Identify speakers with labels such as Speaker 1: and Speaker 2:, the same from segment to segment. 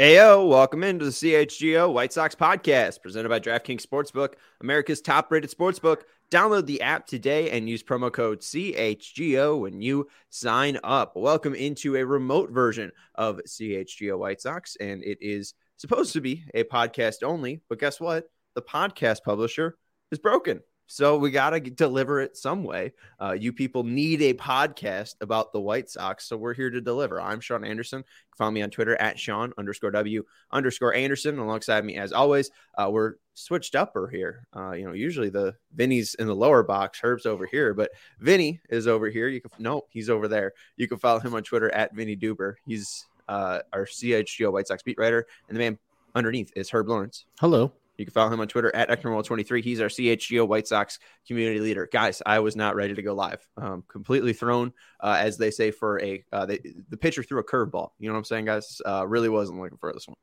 Speaker 1: Ayo, welcome into the CHGO White Sox podcast presented by DraftKings Sportsbook, America's top-rated sportsbook. Download the app today and use promo code CHGO when you sign up. Welcome into a remote version of CHGO White Sox, and it is supposed to be a podcast only, but guess what? The podcast publisher is broken. So we got to deliver it some way. You people need a podcast about the White Sox, so we're here to deliver. I'm Sean Anderson. You can follow me on Twitter at Sean_W_Anderson. Alongside me, as always, we're switched upper here. Usually the Vinny's in the lower box, Herb's over here, but Vinny is over here. He's over there. You can follow him on Twitter at Vinny Duber. He's our CHGO White Sox beat writer, and the man underneath is Herb Lawrence.
Speaker 2: Hello.
Speaker 1: You can follow him on Twitter at Eknerwall23. He's our CHGO White Sox community leader. Guys, I was not ready to go live. Completely thrown, as they say, for the pitcher threw a curveball. You know what I'm saying, guys? Really wasn't looking for this one.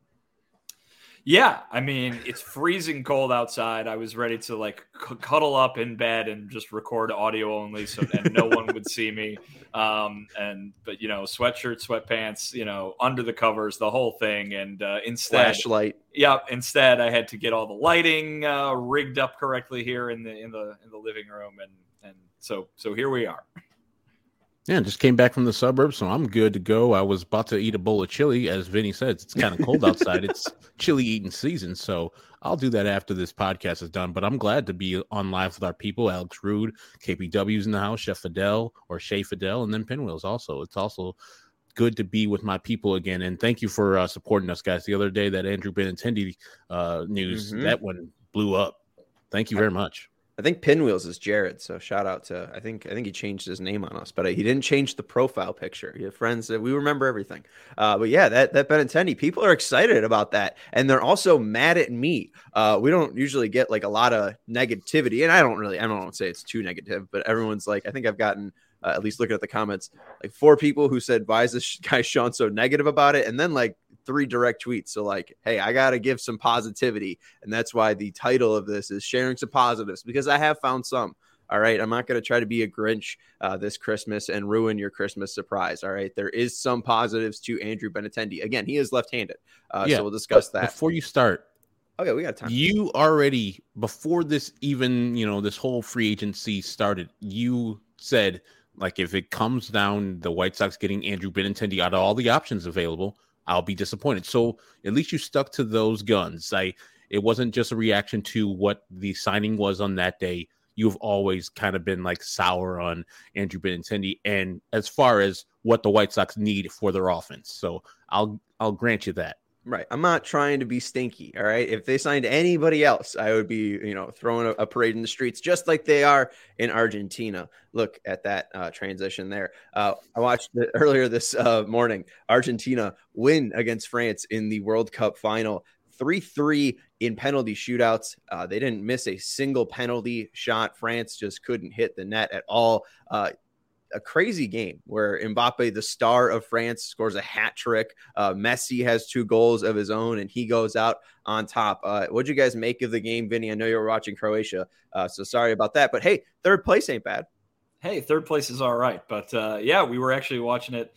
Speaker 3: Yeah, I mean, it's freezing cold outside. I was ready to cuddle up in bed and just record audio only and no one would see me. But sweatshirt, sweatpants, under the covers, the whole thing. And instead,
Speaker 1: flashlight.
Speaker 3: Yeah, instead I had to get all the lighting rigged up correctly here in the living room, and so here we are.
Speaker 2: Yeah, just came back from the suburbs, so I'm good to go. I was about to eat a bowl of chili. As Vinny said, it's kind of cold outside. It's chili eating season, so I'll do that after this podcast is done. But I'm glad to be on live with our people. Alex Rude, KPW's in the house, Chef Fidel, or Shea Fidel, and then Pinwheels also. It's also good to be with my people again, and thank you for supporting us, guys. The other day, that Andrew Benintendi news, that one blew up. Thank you very much.
Speaker 1: I think Pinwheels is Jared, so shout out to I think he changed his name on us, but he didn't change the profile picture. Your friends, we remember everything. But yeah, that Benintendi, people are excited about that, and they're also mad at me. We don't usually get a lot of negativity, and I don't say it's too negative, but everyone's I think I've gotten at least looking at the comments, 4 people who said, "Why is this guy Sean so negative about it?" And then 3 direct tweets. So hey, I got to give some positivity. And that's why the title of this is sharing some positives, because I have found some. All right. I'm not going to try to be a Grinch this Christmas and ruin your Christmas surprise. All right. There is some positives to Andrew Benintendi. Again, he is left-handed. So we'll discuss that.
Speaker 2: Before you start.
Speaker 1: Okay. We got time.
Speaker 2: You already, before this even, this whole free agency started, you said, if it comes down the White Sox getting Andrew Benintendi out of all the options available, I'll be disappointed. So at least you stuck to those guns. It wasn't just a reaction to what the signing was on that day. You've always kind of been sour on Andrew Benintendi, and as far as what the White Sox need for their offense. So I'll grant you that.
Speaker 1: Right. I'm not trying to be stinky. All right. If they signed anybody else, I would be, throwing a parade in the streets, just like they are in Argentina. Look at that transition there. I watched it earlier this morning. Argentina win against France in the World Cup final, 3-3 in penalty shootouts. They didn't miss a single penalty shot. France just couldn't hit the net at all. A crazy game where Mbappe, the star of France, scores a hat trick. Messi has 2 goals of his own, and he goes out on top. What'd you guys make of the game, Vinny? I know you were watching Croatia, so sorry about that. But hey, 3rd place ain't bad.
Speaker 3: Hey, 3rd place is all right. But we were actually watching it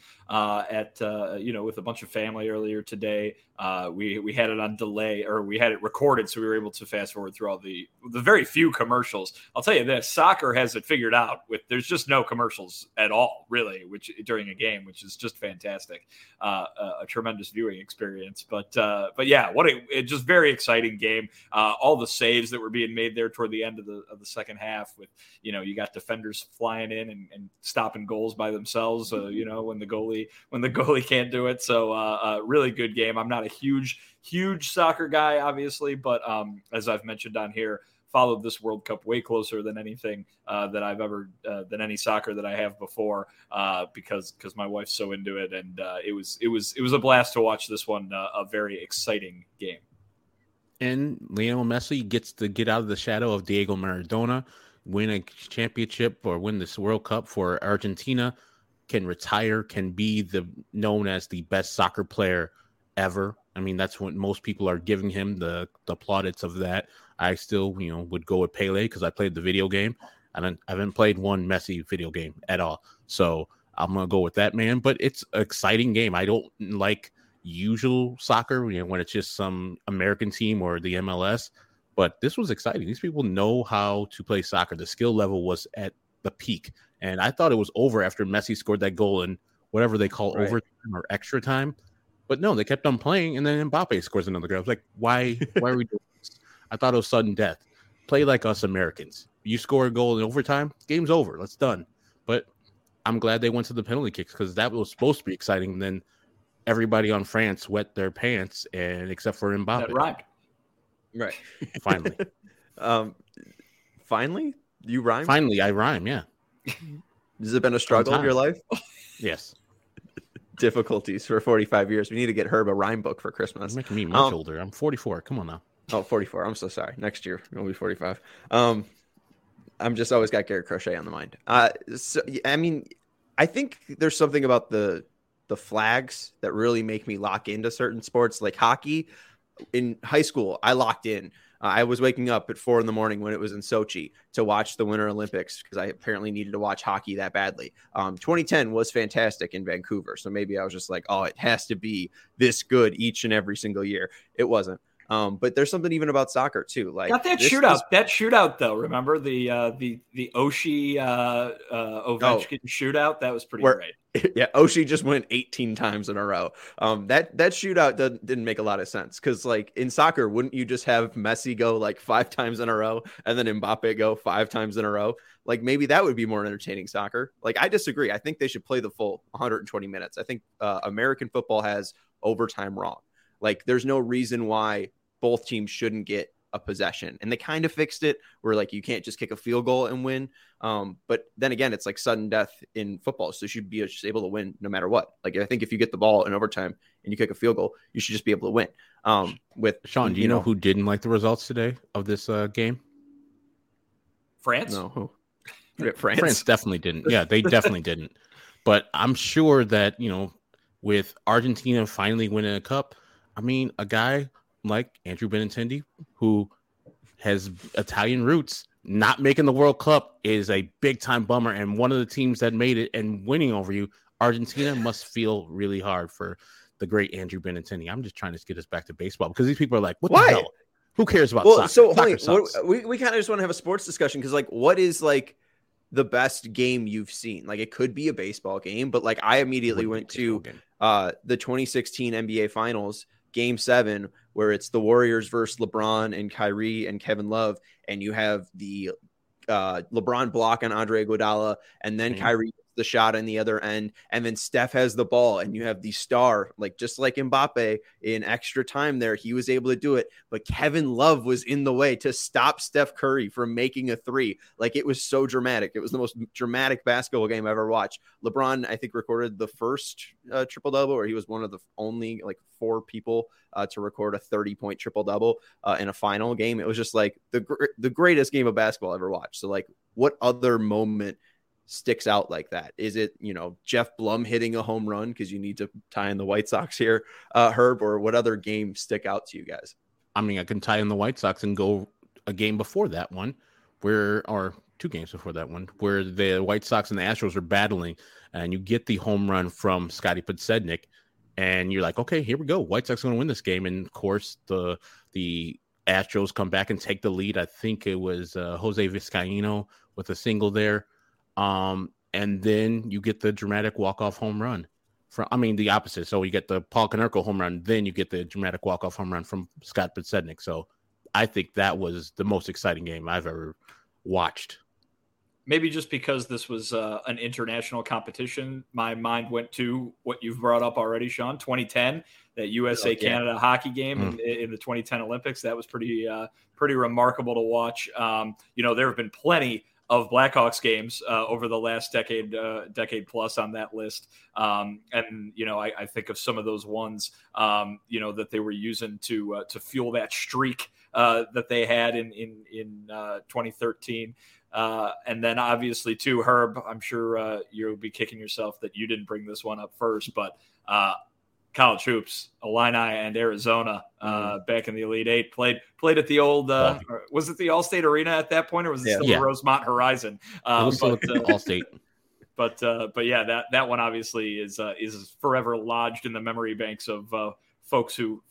Speaker 3: with a bunch of family earlier today. We had it on delay, or we had it recorded, so we were able to fast forward through all the very few commercials. I'll tell you this, soccer has it figured out there's just no commercials at all, really, which during a game, which is just fantastic. A tremendous viewing experience. But yeah, just very exciting game. All the saves that were being made there toward the end of the second half with, you got defenders flying in and stopping goals by themselves, when the goalie can't do it. So really good game. I'm not a huge soccer guy, obviously, but as I've mentioned on here, followed this World Cup way closer than anything that I've ever than any soccer that I have before, because my wife's so into it, and it was a blast to watch this one. A very exciting game.
Speaker 2: And Lionel Messi gets to get out of the shadow of Diego Maradona, win a championship or win this World Cup for Argentina, can retire, can be known as the best soccer player ever. I mean, that's what most people are giving him, the plaudits of that. I still, would go with Pele because I played the video game. I haven't played one Messi video game at all. So I'm going to go with that man. But it's an exciting game. I don't like usual soccer, when it's just some American team or the MLS. But this was exciting. These people know how to play soccer. The skill level was at the peak. And I thought it was over after Messi scored that goal in whatever they call overtime or extra time. But no, they kept on playing, and then Mbappe scores another goal. I was like, why are we doing this? I thought it was sudden death. Play like us Americans. You score a goal in overtime, game's over. Let's done. But I'm glad they went to the penalty kicks because that was supposed to be exciting. And then everybody on France wet their pants, and except for Mbappe.
Speaker 3: That rhymed.
Speaker 1: Right.
Speaker 2: Finally.
Speaker 1: Finally? You rhyme?
Speaker 2: Finally, I rhyme, yeah.
Speaker 1: Has it been a struggle in your life?
Speaker 2: Yes.
Speaker 1: Difficulties for 45 years. We need to get Herb a rhyme book for Christmas.
Speaker 2: You're making me much older. I'm 44. Come on now.
Speaker 1: Oh, 44. I'm so sorry. Next year, I'll be 45. I'm just always got Garrett Crochet on the mind. So, I mean, I think there's something about the flags that really make me lock into certain sports, like hockey. In high school, I locked in. I was waking up at 4 a.m. when it was in Sochi to watch the Winter Olympics because I apparently needed to watch hockey that badly. 2010 was fantastic in Vancouver. So maybe I was just like, oh, it has to be this good each and every single year. It wasn't. But there's something even about soccer too. Like
Speaker 3: got that shootout. That shootout though. Remember the Oshie Ovechkin shootout? That was pretty great.
Speaker 1: Yeah, Oshie just went 18 times in a row. That shootout didn't make a lot of sense because, like, in soccer, wouldn't you just have Messi go like 5 times in a row and then Mbappe go 5 times in a row? Like, maybe that would be more entertaining soccer. Like, I disagree. I think they should play the full 120 minutes. I think American football has overtime wrong. Like, there's no reason why both teams shouldn't get a possession, and they kind of fixed it where like you can't just kick a field goal and win. But then again, it's like sudden death in football, so you should be just able to win no matter what. Like I think if you get the ball in overtime and you kick a field goal, you should just be able to win. With
Speaker 2: Sean, do you know who didn't like the results today of this game?
Speaker 3: France?
Speaker 1: No, who? France.
Speaker 2: France definitely didn't. Yeah, they definitely didn't. But I'm sure that with Argentina finally winning a cup, I mean, a guy like Andrew Benintendi, who has Italian roots, not making the World Cup is a big time bummer. And one of the teams that made it and winning over you, Argentina, must feel really hard for the great Andrew Benintendi. I'm just trying to get us back to baseball because these people are like, what the hell? Who cares about soccer?
Speaker 1: So we kind of just want to have a sports discussion because like, what is like the best game you've seen? Like it could be a baseball game, but like I immediately went to the 2016 NBA Finals, Game 7, where it's the Warriors versus LeBron and Kyrie and Kevin Love, and you have the LeBron block on Andre Iguodala, and then Kyrie gets the shot on the other end, and then Steph has the ball, and you have the star, like just like Mbappe in extra time there, he was able to do it, but Kevin Love was in the way to stop Steph Curry from making a 3. Like it was so dramatic. It was the most dramatic basketball game I ever watched. LeBron, I think, recorded the first triple-double, or he was one of the only like 4 people to record a 30-point triple-double in a final game. It was just like the greatest game of basketball I ever watched. So like what other moment sticks out like that? Is it, Jeff Blum hitting a home run because you need to tie in the White Sox here, Herb, or what other games stick out to you guys?
Speaker 2: I mean, I can tie in the White Sox and go a game before that one or 2 games before that one where the White Sox and the Astros are battling and you get the home run from Scotty Podsednik. And you're like, okay, here we go. White Sox going to win this game. And, of course, the Astros come back and take the lead. I think it was Jose Vizcaino with a single there. And then you get the dramatic walk-off home run. The opposite. So you get the Paul Konerko home run. Then you get the dramatic walk-off home run from Scott Podsednik. So I think that was the most exciting game I've ever watched.
Speaker 3: Maybe just because this was an international competition, my mind went to what you've brought up already, Sean. 2010, that USA-Canada hockey game in the 2010 Olympics. That was pretty remarkable to watch. There have been plenty of Blackhawks games over the last decade plus on that list. I think of some of those ones, that they were using to fuel that streak that they had in 2013. And then obviously too, Herb, I'm sure you'll be kicking yourself that you didn't bring this one up first, but college hoops, Illini and Arizona back in the Elite Eight played at the old, was it the Allstate Arena at that point, or was it still the Rosemont Horizon?
Speaker 2: It was still at Allstate.
Speaker 3: But yeah, that one obviously is forever lodged in the memory banks of folks who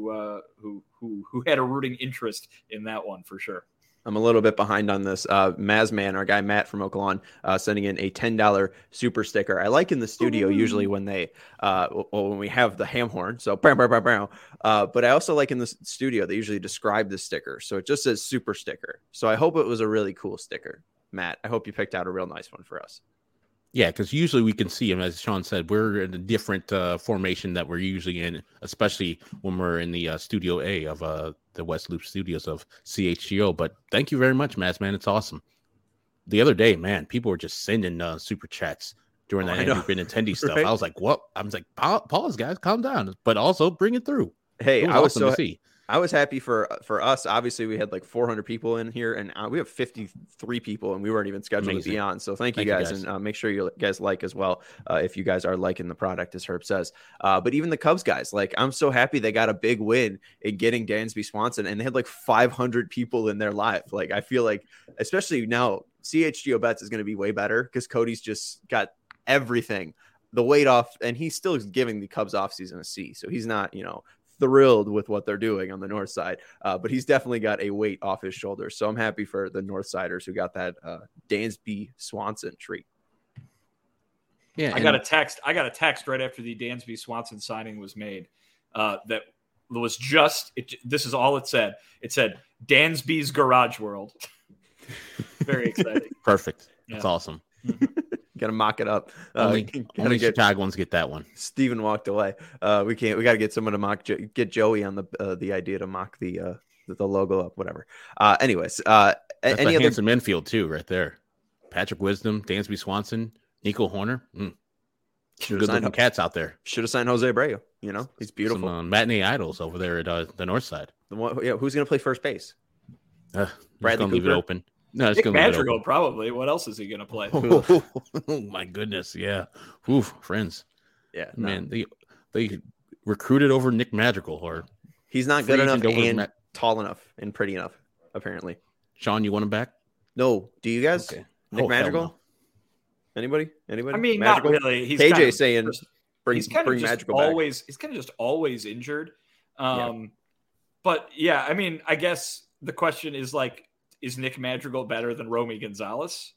Speaker 3: had a rooting interest in that one for sure.
Speaker 1: I'm a little bit behind on this. Mazman, our guy Matt from Oaklawn, sending in a $10 super sticker. I like in the studio usually when they when we have the ham horn. So but I also like in the studio they usually describe the sticker. So it just says super sticker. So I hope it was a really cool sticker, Matt. I hope you picked out a real nice one for us.
Speaker 2: Yeah, because usually we can see him, as Sean said, we're in a different formation that we're usually in, especially when we're in the Studio A of the West Loop Studios of CHGO. But thank you very much, Mads, man. It's awesome. The other day, man, people were just sending super chats during that Andrew Benintendi stuff. Right? I was like, what? I was like, pause, guys, calm down. But also bring it through.
Speaker 1: Hey, I was awesome to see. I was happy for us. Obviously, we had like 400 people in here, and we have 53 people, and we weren't even scheduled to be on. So thank you guys, and make sure you guys like as well if you guys are liking the product, as Herb says. But even the Cubs guys, like I'm so happy they got a big win in getting Dansby Swanson, and they had like 500 people in their live. Like I feel like, especially now, CHGO Bets is going to be way better because Cody's just got everything, the weight off, and he's still giving the Cubs offseason a C. So he's not, thrilled with what they're doing on the north side, but he's definitely got a weight off his shoulders. So I'm happy for the north siders who got that Dansby Swanson treat.
Speaker 3: Yeah, I got a text right after the Dansby Swanson signing was made that was this is all it said. It said Dansby's Garage World. Very exciting.
Speaker 2: Perfect. Yeah. That's awesome.
Speaker 1: Got to mock it up.
Speaker 2: Only Chicagoans get that one.
Speaker 1: Steven walked away. We can't. We got to get someone to get Joey on the idea to mock the logo up. Whatever. Anyways,
Speaker 2: that's any other handsome infield too, right there. Patrick Wisdom, Dansby Swanson, Nico Horner. Good looking cats out there.
Speaker 1: Should have signed Jose Abreu. He's beautiful.
Speaker 2: Some matinee idols over there at the north side.
Speaker 1: Who's going to play first base?
Speaker 2: Bradley Cooper. Leave it open. No, it's
Speaker 3: Nick Madrigal probably. What else is he going to play?
Speaker 2: Oh my goodness, yeah. Oof, friends.
Speaker 1: Yeah,
Speaker 2: man. They recruited over Nick Madrigal, or
Speaker 1: he's not good enough and tall enough and pretty enough. Apparently,
Speaker 2: Sean, you want him back?
Speaker 1: No. Do you guys? Okay. Nick Madrigal? No. Anybody?
Speaker 3: I mean, Madrigal? Not really. He's
Speaker 1: KJ saying bring
Speaker 3: Madrigal back. He's kind of just always injured. But yeah, I mean, I guess the question is like, is Nick Madrigal better than Romy Gonzalez?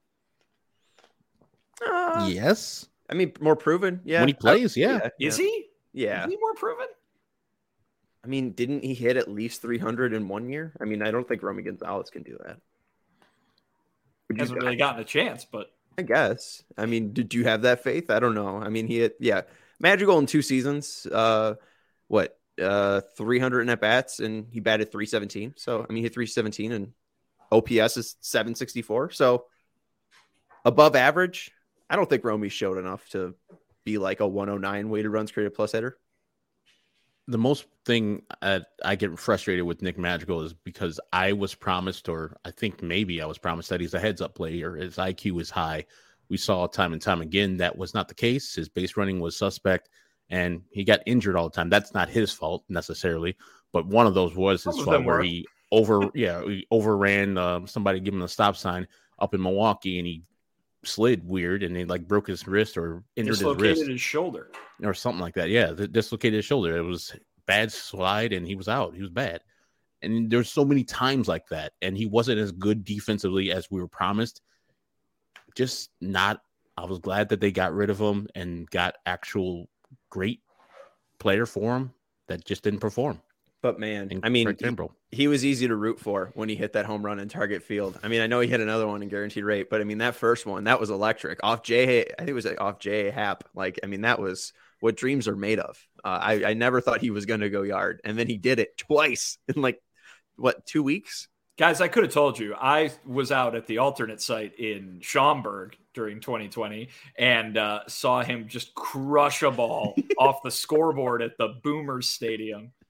Speaker 2: Yes.
Speaker 1: I mean, more proven. Yeah.
Speaker 2: When he plays, yeah.
Speaker 3: Is he?
Speaker 1: Yeah.
Speaker 3: Is he more proven?
Speaker 1: I mean, didn't he hit at least 300 in 1 year? I mean, I don't think Romy Gonzalez can do that.
Speaker 3: He hasn't really gotten a chance, but
Speaker 1: I guess. I mean, did you have that faith? I don't know. I mean, he hit, Madrigal in 2 seasons. 300 at bats, and he batted 317. So, I mean, he hit 317 and OPS is 764. So above average. I don't think Romy showed enough to be like a 109 weighted runs created plus hitter.
Speaker 2: The most thing I get frustrated with Nick Madrigal is because I was promised, or I think maybe I was promised, that he's a heads up player. His IQ is high. We saw time and time again that was not the case. His base running was suspect, and he got injured all the time. That's not his fault necessarily, but one of those was his fault where he overran somebody giving him a stop sign up in Milwaukee, and he slid weird, and he like broke his wrist or injured
Speaker 3: dislocated his shoulder
Speaker 2: or something like that. Yeah, dislocated his shoulder. It was bad slide, and he was out. He was bad, and there's so many times like that, and he wasn't as good defensively as we were promised. Just not. I was glad that they got rid of him and got actual great player for him that just didn't perform.
Speaker 1: But man, I mean, he was easy to root for when he hit that home run in Target Field. I mean, I know he hit another one in guaranteed rate, but I mean, that first one, that was electric. I think it was off J.A. Happ. Like, I mean, that was what dreams are made of. I never thought he was going to go yard. And then he did it twice in 2 weeks?
Speaker 3: Guys, I could have told you. I was out at the alternate site in Schaumburg during 2020 and saw him just crush a ball off the scoreboard at the Boomers Stadium.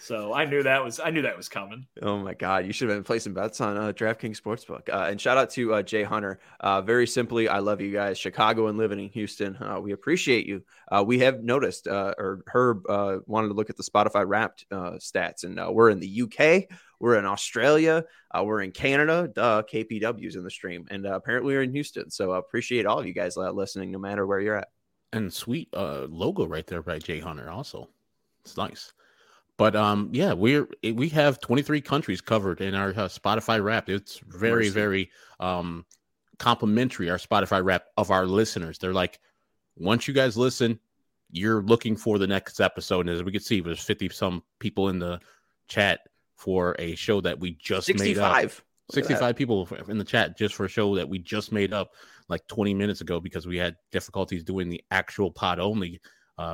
Speaker 3: So I knew that was coming.
Speaker 1: Oh my God, you should have been placing bets on DraftKings Sportsbook. And shout out to Jay Hunter. Very simply, I love you guys, Chicago and living in Houston. We appreciate you. We have noticed, or Herb wanted to look at the Spotify Wrapped stats, and we're in the UK, we're in Australia, we're in Canada. KPW's in the stream, and apparently we're in Houston. So appreciate all of you guys listening, no matter where you're at.
Speaker 2: And sweet logo right there by Jay Hunter. Also, it's nice. But yeah, we have 23 countries covered in our Spotify Wrapped. It's very, very complimentary, our Spotify Wrapped of our listeners. They're like, once you guys listen, you're looking for the next episode. And as we can see, there's 50 some people in the chat for a show that we just 65. Made up. 65 people in the chat just for a show that we just made up like 20 minutes ago because we had difficulties doing the actual pod only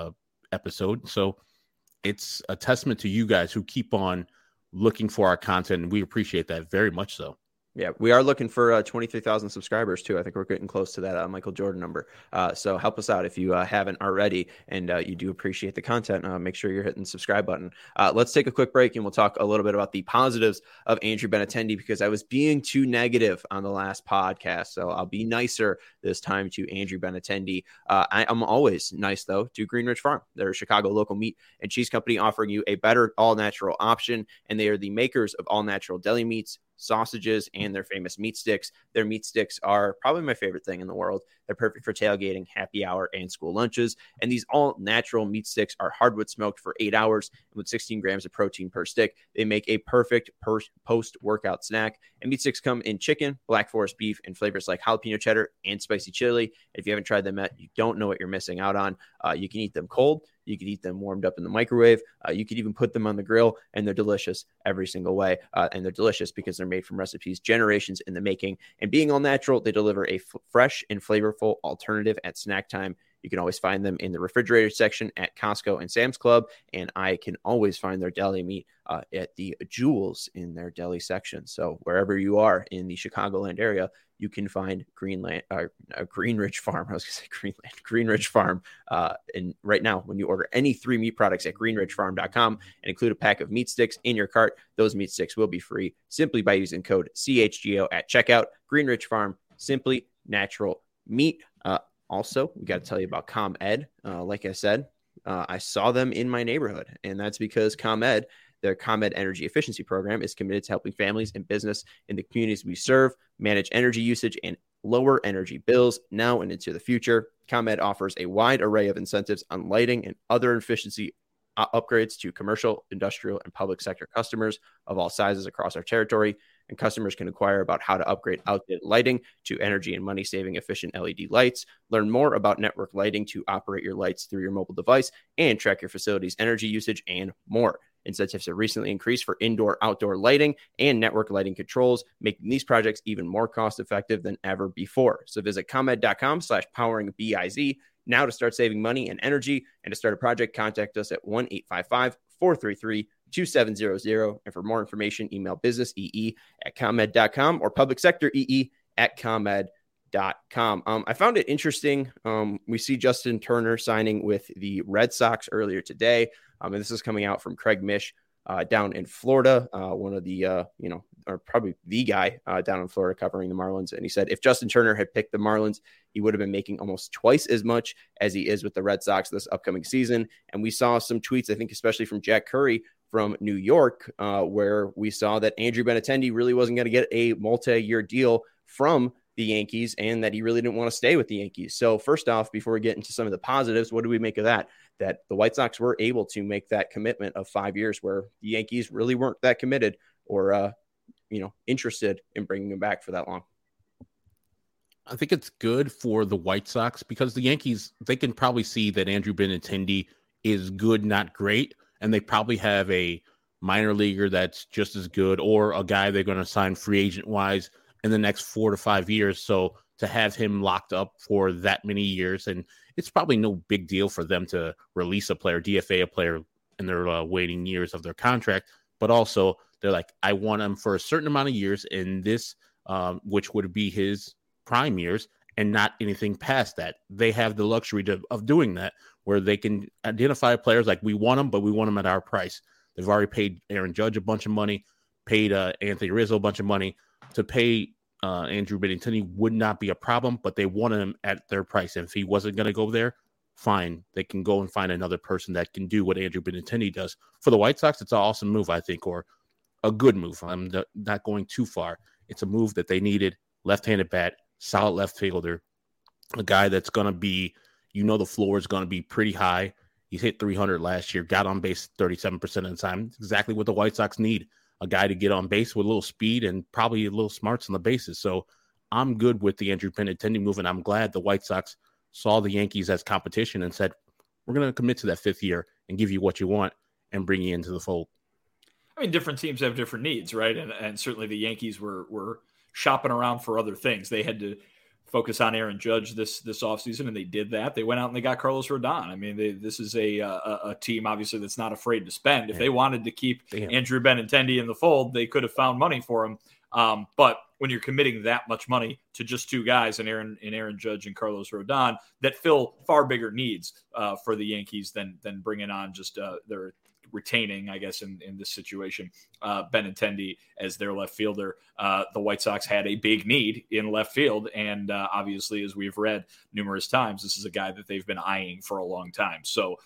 Speaker 2: episode. So it's a testament to you guys who keep on looking for our content, and we appreciate that very much so.
Speaker 1: Yeah, we are looking for 23,000 subscribers too. I think we're getting close to that Michael Jordan number. So help us out if you haven't already, and you do appreciate the content. Make sure you're hitting the subscribe button. Let's take a quick break, and we'll talk a little bit about the positives of Andrew Benintendi, because I was being too negative on the last podcast. So I'll be nicer this time to Andrew Benintendi. I'm always nice, though, to Greenridge Farm. They're a Chicago local meat and cheese company offering you a better all-natural option, and they are the makers of all-natural deli meats, sausages, and their famous meat sticks. Their meat sticks are probably my favorite thing in the world. They're perfect for tailgating, happy hour, and school lunches. And these all-natural meat sticks are hardwood smoked for 8 hours, and with 16 grams of protein per stick, they make a perfect post-workout snack. And meat sticks come in chicken, Black Forest beef, and flavors like jalapeno cheddar and spicy chili. If you haven't tried them yet, you don't know what you're missing out on. You can eat them cold. You could eat them warmed up in the microwave. You could even put them on the grill, and they're delicious every single way. And they're delicious because they're made from recipes generations in the making. And being all natural, they deliver a fresh and flavorful alternative at snack time. You can always find them in the refrigerator section at Costco and Sam's Club. And I can always find their deli meat at the Jewels in their deli section. So wherever you are in the Chicagoland area, you can find Greenridge Farm. I was going to say Greenridge Farm. And right now, when you order any 3 meat products at greenridgefarm.com and include a pack of meat sticks in your cart, those meat sticks will be free simply by using code CHGO at checkout. Greenridge Farm, simply natural meat. Also, we got to tell you about ComEd. Like I said, I saw them in my neighborhood, and that's because ComEd, their ComEd Energy Efficiency Program, is committed to helping families and business in the communities we serve manage energy usage and lower energy bills now and into the future. ComEd offers a wide array of incentives on lighting and other efficiency upgrades to commercial, industrial, and public sector customers of all sizes across our territory. And customers can inquire about how to upgrade outdated lighting to energy and money-saving efficient LED lights. Learn more about network lighting to operate your lights through your mobile device and track your facility's energy usage and more. Incentives have recently increased for indoor-outdoor lighting and network lighting controls, making these projects even more cost-effective than ever before. So visit ComEd.com/poweringbiz now to start saving money and energy. And to start a project, contact us at 1-855-433-2700. And for more information, email businessee@comed.com or publicsectoree@comed.com. I found it interesting. We see Justin Turner signing with the Red Sox earlier today. And this is coming out from Craig Mish down in Florida, one of the, or probably the guy down in Florida covering the Marlins. And he said if Justin Turner had picked the Marlins, he would have been making almost twice as much as he is with the Red Sox this upcoming season. And we saw some tweets, I think, especially from Jack Curry from New York, where we saw that Andrew Benintendi really wasn't going to get a multi-year deal from the Yankees and that he really didn't want to stay with the Yankees. So first off, before we get into some of the positives, what do we make of that? That the White Sox were able to make that commitment of 5 years where the Yankees really weren't that committed or, interested in bringing him back for that long.
Speaker 2: I think it's good for the White Sox because the Yankees, they can probably see that Andrew Benintendi is good, not great. And they probably have a minor leaguer that's just as good or a guy they're going to sign free agent wise in the next 4 to 5 years. So to have him locked up for that many years, and it's probably no big deal for them to release a player, DFA a player in their waiting years of their contract. But also they're like, I want him for a certain amount of years in this, which would be his prime years and not anything past that. They have the luxury of doing that where they can identify players like we want them, but we want them at our price. They've already paid Aaron Judge a bunch of money, paid Anthony Rizzo a bunch of money. To pay Andrew Benintendi would not be a problem, but they wanted him at their price. And if he wasn't going to go there, fine. They can go and find another person that can do what Andrew Benintendi does. For the White Sox, it's an awesome move, I think, or a good move. I'm not going too far. It's a move that they needed. Left-handed bat, solid left fielder, a guy that's going to be, the floor is going to be pretty high. He's hit 300 last year, got on base 37% of the time. It's exactly what the White Sox need, a guy to get on base with a little speed and probably a little smarts on the bases. So I'm good with the Andrew Benintendi move, and I'm glad the White Sox saw the Yankees as competition and said, we're going to commit to that 5th year and give you what you want and bring you into the fold.
Speaker 3: I mean, different teams have different needs, right? And certainly the Yankees were shopping around for other things. They had to focus on Aaron Judge this offseason, and they did that. They went out and they got Carlos Rodon. I mean, this is a team, obviously, that's not afraid to spend. If they wanted to keep Andrew Benintendi in the fold, they could have found money for him. But when you're committing that much money to just 2 guys, in Aaron Judge and Carlos Rodon, that fill far bigger needs for the Yankees than bringing on just their retaining, I guess, in this situation, Benintendi as their left fielder. The White Sox had a big need in left field. And obviously, as we've read numerous times, this is a guy that they've been eyeing for a long time. So,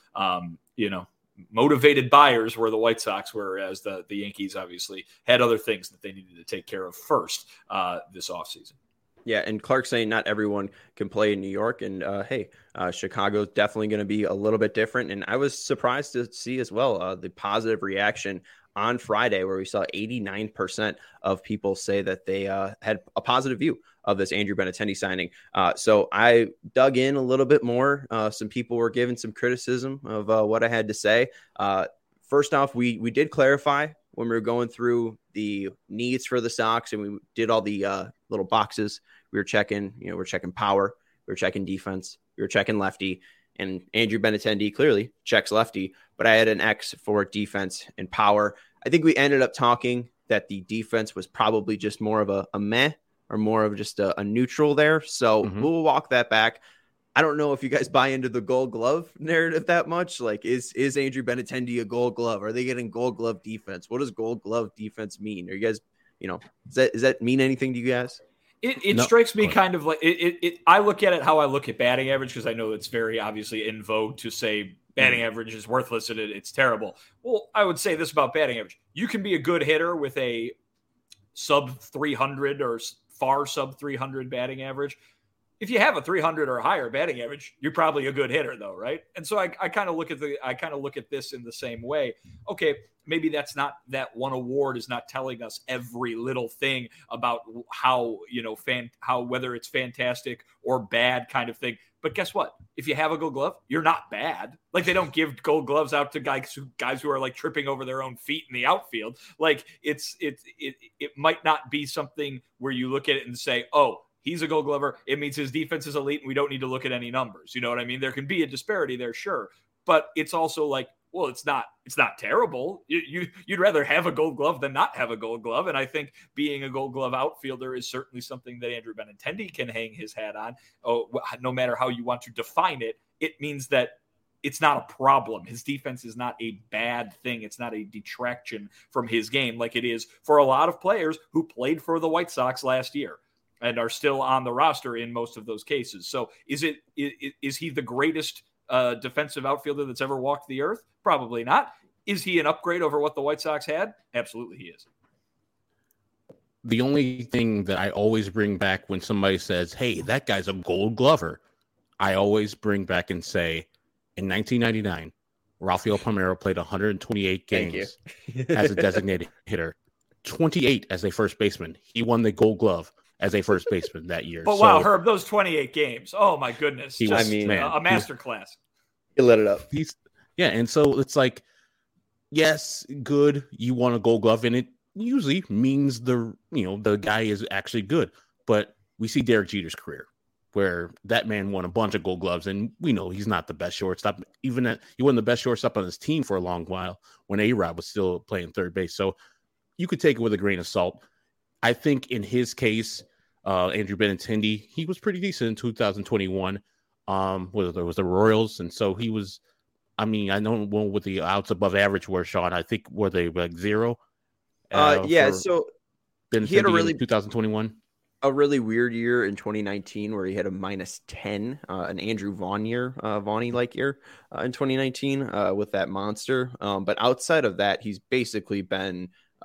Speaker 3: motivated buyers were the White Sox, whereas the Yankees obviously had other things that they needed to take care of first this offseason.
Speaker 1: Yeah, and Clark saying not everyone can play in New York, and Chicago's definitely going to be a little bit different. And I was surprised to see as well the positive reaction on Friday, where we saw 89% of people say that they had a positive view of this Andrew Benintendi signing. So I dug in a little bit more. Some people were giving some criticism of what I had to say. First off, we did clarify when we were going through the needs for the Sox, and we did all the little boxes. We were checking, we're checking power, we were checking defense, we were checking lefty, and Andrew Benintendi clearly checks lefty, but I had an X for defense and power. I think we ended up talking that the defense was probably just more of a meh, or more of just a neutral there. So we'll walk that back. I don't know if you guys buy into the Gold Glove narrative that much. Like, is Andrew Benintendi a Gold Glove? Are they getting Gold Glove defense? What does Gold Glove defense mean? Are you guys, does that mean anything to you guys?
Speaker 3: It strikes me kind of like I look at it how I look at batting average, because I know it's very obviously in vogue to say batting average is worthless and it's terrible. Well, I would say this about batting average: you can be a good hitter with a sub 300 or far sub 300 batting average. If you have a 300 or higher batting average, you're probably a good hitter, though, right? And so I kind of look at this in the same way. Okay, maybe that's not, that one award is not telling us every little thing about how whether it's fantastic or bad kind of thing. But guess what? If you have a Gold Glove, you're not bad. Like, they don't give Gold Gloves out to guys who are like tripping over their own feet in the outfield. Like, it might not be something where you look at it and say, oh, he's a Gold Glover, it means his defense is elite, and we don't need to look at any numbers. You know what I mean? There can be a disparity there, sure. But it's also like, well, it's not terrible. You'd rather have a Gold Glove than not have a Gold Glove. And I think being a Gold Glove outfielder is certainly something that Andrew Benintendi can hang his hat on. Oh, no matter how you want to define it, it means that it's not a problem. His defense is not a bad thing. It's not a detraction from his game like it is for a lot of players who played for the White Sox last year and are still on the roster in most of those cases. So is he the greatest defensive outfielder that's ever walked the earth? Probably not. Is he an upgrade over what the White Sox had? Absolutely he is.
Speaker 2: The only thing that I always bring back when somebody says, hey, that guy's a Gold Glover, I always bring back and say, in 1999, Rafael Palmeiro played 128 games as a designated hitter, 28 as a first baseman. He won the Gold Glove as a first baseman that year.
Speaker 3: But wow, Herb, those 28 games. Oh my goodness. A masterclass.
Speaker 1: He lit it up.
Speaker 2: And so it's like, yes, good. You won a Gold Glove, and it usually means the guy is actually good. But we see Derek Jeter's career, where that man won a bunch of Gold Gloves, and we know he's not the best shortstop. He wasn't the best shortstop on his team for a long while when A-Rod was still playing third base. So you could take it with a grain of salt. I think in his case, Andrew Benintendi, he was pretty decent in 2021. Was the Royals, and so he was I mean, I know what the outs above average were, Sean. I think were they like 0?
Speaker 1: Yeah.
Speaker 2: For
Speaker 1: So he had
Speaker 2: Benintendi in 2021.
Speaker 1: a really weird year in 2019 where he had a -10, an Andrew Vaughn year, Vaughny like year in 2019 with that monster. But outside of that, he's basically been,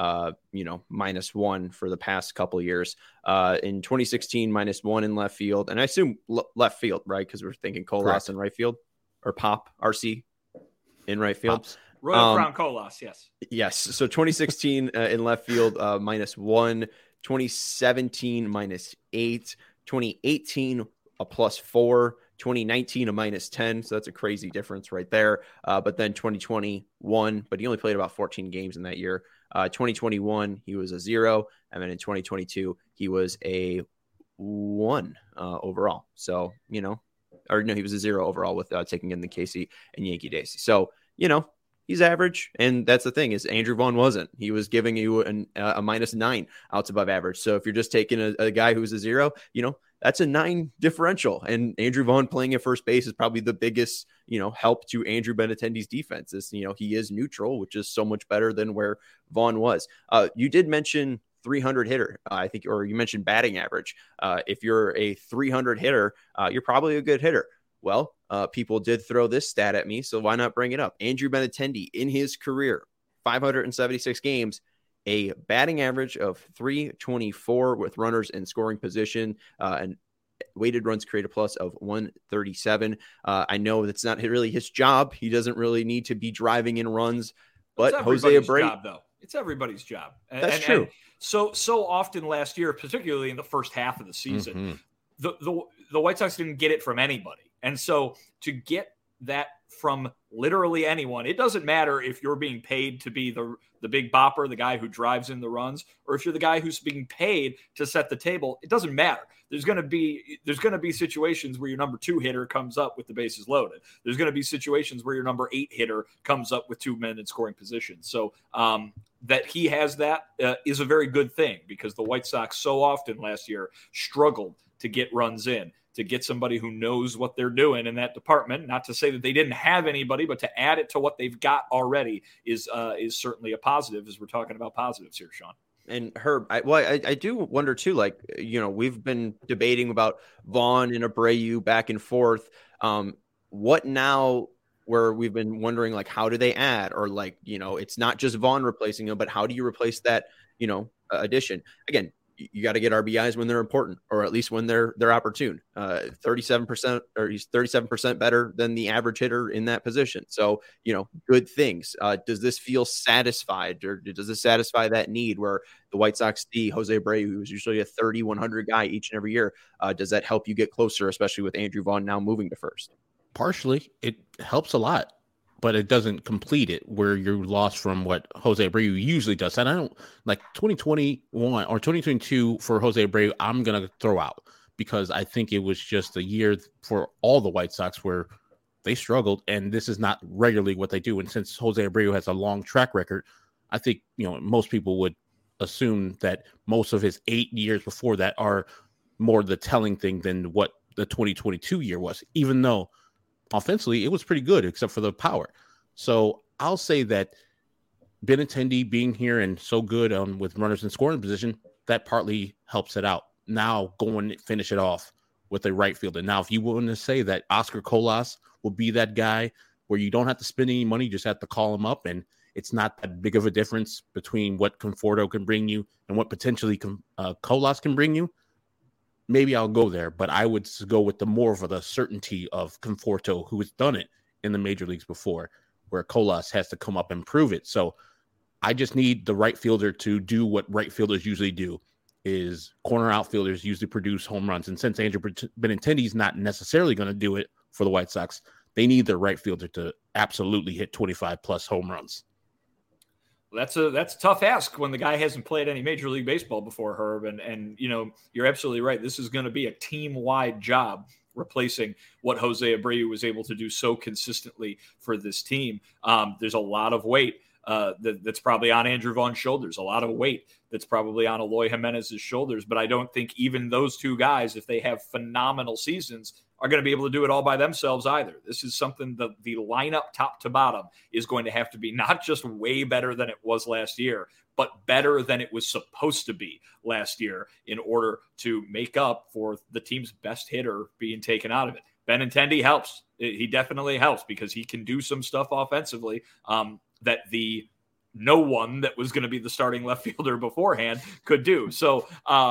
Speaker 1: -1 for the past couple of years. In 2016, -1 in left field. And I assume left field, right? Because we're thinking Colas in right field or Pop RC in right field.
Speaker 2: Pops.
Speaker 3: Royal Crown Colas, yes.
Speaker 1: Yes. So 2016 in left field, -1. 2017 -8, 2018 a +4, 2019 a -10. So that's a crazy difference right there. But then 2021, but he only played about 14 games in that year. 2021 he was a 0, and then in 2022 he was a 1 overall. So he was a 0 overall with taking in the Casey and Yankee days. So he's average, and that's the thing is Andrew Vaughn wasn't. He was giving you a -9 outs above average. So if you're just taking a guy who's a 0, that's a 9 differential. And Andrew Vaughn playing at first base is probably the biggest, help to Andrew Benintendi's defense. Is he is neutral, which is so much better than where Vaughn was. You did mention 300 hitter, I think, or you mentioned batting average. If you're a 300 hitter, you're probably a good hitter. Well, people did throw this stat at me, so why not bring it up? Andrew Benintendi, in his career, 576 games, a batting average of 324 with runners in scoring position, and weighted runs created plus of 137. I know that's not really his job. He doesn't really need to be driving in runs, but Jose Abreu,
Speaker 3: job, though. It's everybody's job.
Speaker 1: That's true.
Speaker 3: And so often last year, particularly in the first half of the season, the White Sox didn't get it from anybody. And so to get that from literally anyone, it doesn't matter if you're being paid to be the big bopper, the guy who drives in the runs, or if you're the guy who's being paid to set the table. It doesn't matter. There's going to be situations where your number 2 hitter comes up with the bases loaded. There's going to be situations where your number 8 hitter comes up with 2 men in scoring position. So that he has that is a very good thing, because the White Sox so often last year struggled to get runs in, to get somebody who knows what they're doing in that department. Not to say that they didn't have anybody, but to add it to what they've got already is certainly a positive, as we're talking about positives here, Sean.
Speaker 1: And Herb, I do wonder too, like, we've been debating about Vaughn and Abreu back and forth. What now, where we've been wondering, like, how do they add? Or, like, it's not just Vaughn replacing him, but how do you replace that, addition? Again, you got to get RBIs when they're important, or at least when they're opportune. 37%, or he's 37% better than the average hitter in that position. So, good things. Does this feel satisfied, or does this satisfy that need where the White Sox see Jose Abreu, who's usually a 30-100 guy each and every year? Does that help you get closer, especially with Andrew Vaughn now moving to first?
Speaker 2: Partially, it helps a lot, but it doesn't complete it, where you're lost from what Jose Abreu usually does. And I don't like 2021 or 2022 for Jose Abreu. I'm going to throw out, because I think it was just a year for all the White Sox where they struggled, and this is not regularly what they do. And since Jose Abreu has a long track record, I think, most people would assume that most of his 8 years before that are more the telling thing than what the 2022 year was, even though offensively it was pretty good except for the power. So I'll say that Benintendi being here and so good with runners in scoring position, that partly helps it out. Now go and finish it off with a right fielder. Now, if you want to say that Oscar Colas will be that guy where you don't have to spend any money, you just have to call him up, and it's not that big of a difference between what Conforto can bring you and what potentially Colas can bring you, maybe I'll go there. But I would go with the more of the certainty of Conforto, who has done it in the major leagues before, where Colas has to come up and prove it. So I just need the right fielder to do what right fielders usually do, is corner outfielders usually produce home runs. And since Andrew Benintendi is not necessarily going to do it for the White Sox, they need their right fielder to absolutely hit 25 plus home runs.
Speaker 3: That's a tough ask when the guy hasn't played any Major League Baseball before, Herb. And you're absolutely right. This is going to be a team-wide job, replacing what Jose Abreu was able to do so consistently for this team. There's a lot of weight that's probably on Andrew Vaughn's shoulders, a lot of weight that's probably on Eloy Jimenez's shoulders. But I don't think even those two guys, if they have phenomenal seasons, are going to be able to do it all by themselves either. This is something that the lineup top to bottom is going to have to be not just way better than it was last year, but better than it was supposed to be last year in order to make up for the team's best hitter being taken out of it. Benintendi helps. He definitely helps because he can do some stuff offensively that the no one that was going to be the starting left fielder beforehand could do. So,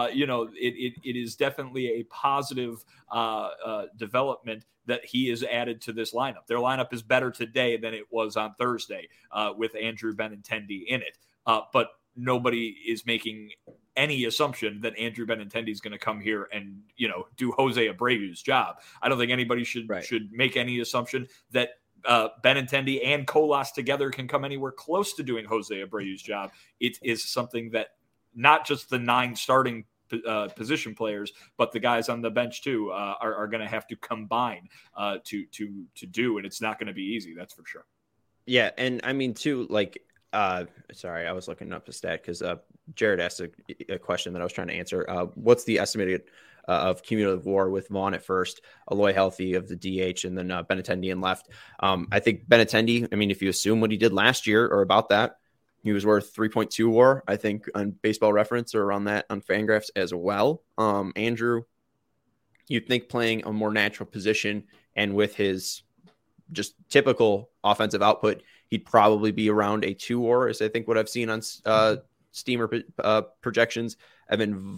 Speaker 3: it is definitely a positive development that he is added to this lineup. Their lineup is better today than it was on Thursday with Andrew Benintendi in it. But nobody is making any assumption that Andrew Benintendi is going to come here and, do Jose Abreu's job. I don't think anybody should make any assumption that Benintendi and Colas together can come anywhere close to doing Jose Abreu's job. It is something that not just the 9 starting position players, but the guys on the bench too are going to have to combine to do, and it's not going to be easy. That's for sure.
Speaker 1: Yeah, and I mean too, sorry, I was looking up a stat because Jared asked a question that I was trying to answer. What's the estimated of cumulative WAR with Vaughn at first, Eloy healthy of the DH, and then Benintendi in left? I think Benintendi, if you assume what he did last year or about that, he was worth 3.2 WAR, I think, on Baseball Reference or around that on Fangraphs as well. Andrew, you'd think playing a more natural position and with his just typical offensive output, he'd probably be around a 2 WAR, is I think what I've seen on Steamer projections. I've been,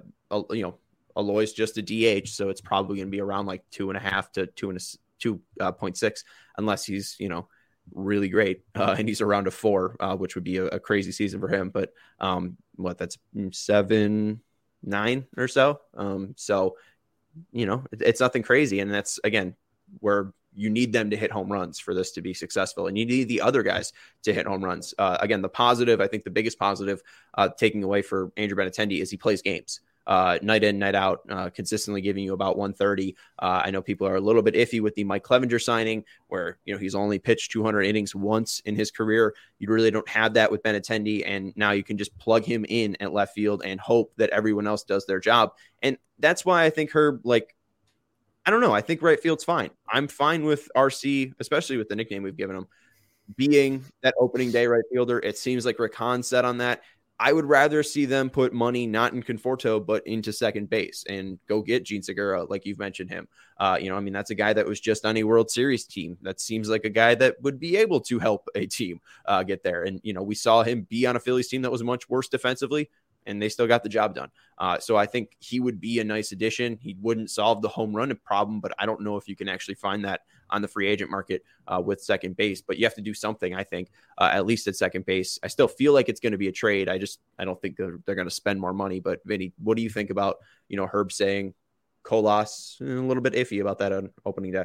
Speaker 1: Eloy's just a DH, so it's probably going to be around 2.5 to 2.6, unless he's, really great. And he's around a 4, which would be a crazy season for him. But that's 7-9 or so. So, it's nothing crazy. And that's, again, where you need them to hit home runs for this to be successful. And you need the other guys to hit home runs. Again, the positive, I think the biggest positive taking away for Andrew Benintendi is he plays games. Night in, night out, consistently giving you about 130. I know people are a little bit iffy with the Mike Clevenger signing where, he's only pitched 200 innings once in his career. You really don't have that with Benintendi. And now you can just plug him in at left field and hope that everyone else does their job. And that's why I think Herb, I don't know. I think right field's fine. I'm fine with RC, especially with the nickname we've given him, being that opening day right fielder. It seems like Rick Hahn said on that. I would rather see them put money not in Conforto, but into second base and go get Gene Segura, like you've mentioned him. That's a guy that was just on a World Series team. That seems like a guy that would be able to help a team get there. And, we saw him be on a Phillies team that was much worse defensively, and they still got the job done. So I think he would be a nice addition. He wouldn't solve the home run problem, but I don't know if you can actually find that on the free agent market with second base. But you have to do something, I think, at least at second base. I still feel like it's going to be a trade. I don't think they're going to spend more money. But Vinny, what do you think about, Herb saying Colas a little bit iffy about that on opening day?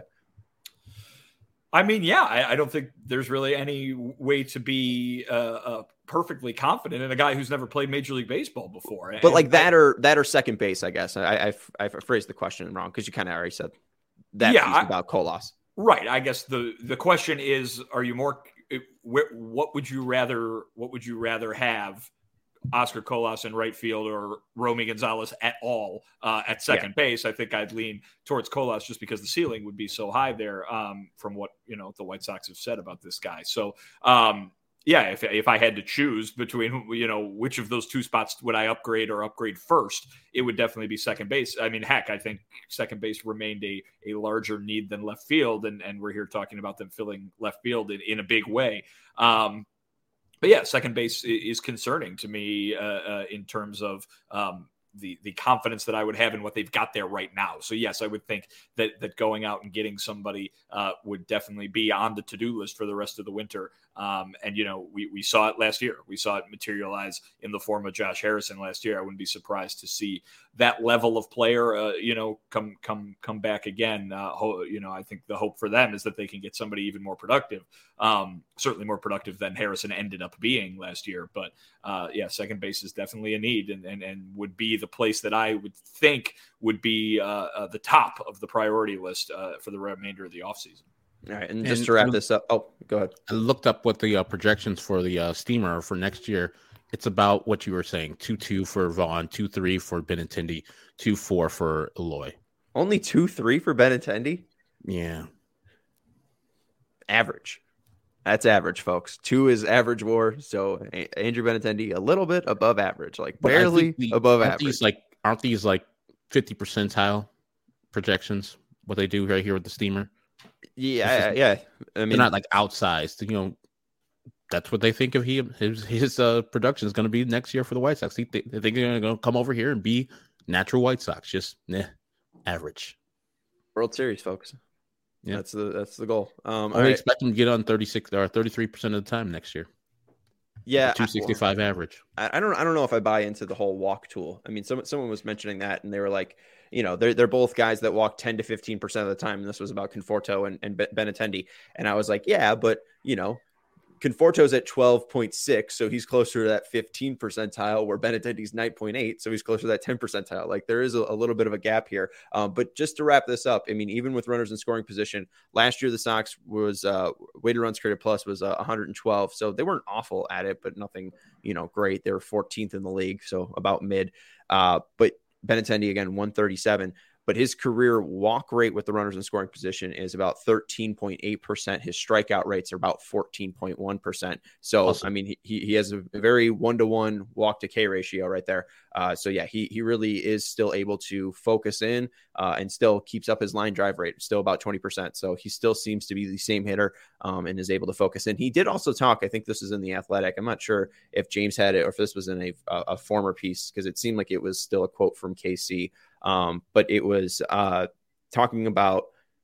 Speaker 3: I don't think there's really any way to be perfectly confident in a guy who's never played Major League Baseball before.
Speaker 1: But that or second base, I guess. I phrased the question wrong because you kind of already said that piece about Colas.
Speaker 3: Right. I guess the question is, are you more? What would you rather have? Oscar Colas in right field or Romy Gonzalez at all at second base? I think I'd lean towards Colas just because the ceiling would be so high there from what the White Sox have said about this guy. So if I had to choose between which of those two spots would I upgrade first, it would definitely be second base. I think second base remained a larger need than left field, and we're here talking about them filling left field in a big way. But yeah, second base is concerning to me in terms of the confidence that I would have in what they've got there right now. So yes, I would think that going out and getting somebody would definitely be on the to-do list for the rest of the winter. We saw it last year. We saw it materialize in the form of Josh Harrison last year. I wouldn't be surprised to see that level of player, come back again. I think the hope for them is that they can get somebody even more productive, certainly more productive than Harrison ended up being last year. But second base is definitely a need and would be the place that I would think would be the top of the priority list for the remainder of the offseason.
Speaker 1: All right, and just to wrap this up, go ahead.
Speaker 2: I looked up what the projections for the Steamer are for next year. It's about what you were saying: 2.2 for Vaughn, 2.3 for Benintendi, 2.4 for Eloy.
Speaker 1: Only 2-3 for Benintendi.
Speaker 2: Yeah.
Speaker 1: Average. That's average, folks. 2 is average WAR. So Andrew Benintendi, a little bit above average, like
Speaker 2: But
Speaker 1: barely above
Speaker 2: aren't
Speaker 1: average.
Speaker 2: Aren't these like 50 percentile projections? What they do right here with the steamer?
Speaker 1: Yeah. I mean,
Speaker 2: they're not like outsized. You know, that's what they think of his production is going to be next year for the White Sox. They think they're going to come over here and be natural White Sox, just average.
Speaker 1: World Series, folks.
Speaker 2: Yeah,
Speaker 1: that's the goal.
Speaker 2: I expect them to get on 36 or 33% of the time next year.
Speaker 1: Yeah,
Speaker 2: 265 average.
Speaker 1: I don't know if I buy into the whole walk tool. I mean, someone was mentioning that, and they were like, you know, they're both guys that walk 10 to 15% of the time, and this was about Conforto and Benintendi, and I was like, yeah, but you know, Conforto's at 12.6, so he's closer to that 15 percentile, where Benintendi's 9.8, so he's closer to that 10 percentile. Like there is a little bit of a gap here. But just to wrap this up, I mean, even with runners in scoring position, last year the Sox was weighted runs created plus was 112, so they weren't awful at it, but nothing, you know, great. They were 14th in the league, so about mid. But Benintendi again 137. But his career walk rate with the runners in scoring position is about 13.8%. His strikeout rates are about 14.1%. So, awesome. I mean, he has a very 1-to-1 walk to K ratio right there. So, yeah, he really is still able to focus in and still keeps up his line drive rate, still about 20%. So he still seems to be the same hitter and is able to focus in. He did also talk, I think this is in The Athletic. I'm not sure if James had it or if this was in a former piece, because it seemed like it was still a quote from KC. But it was talking about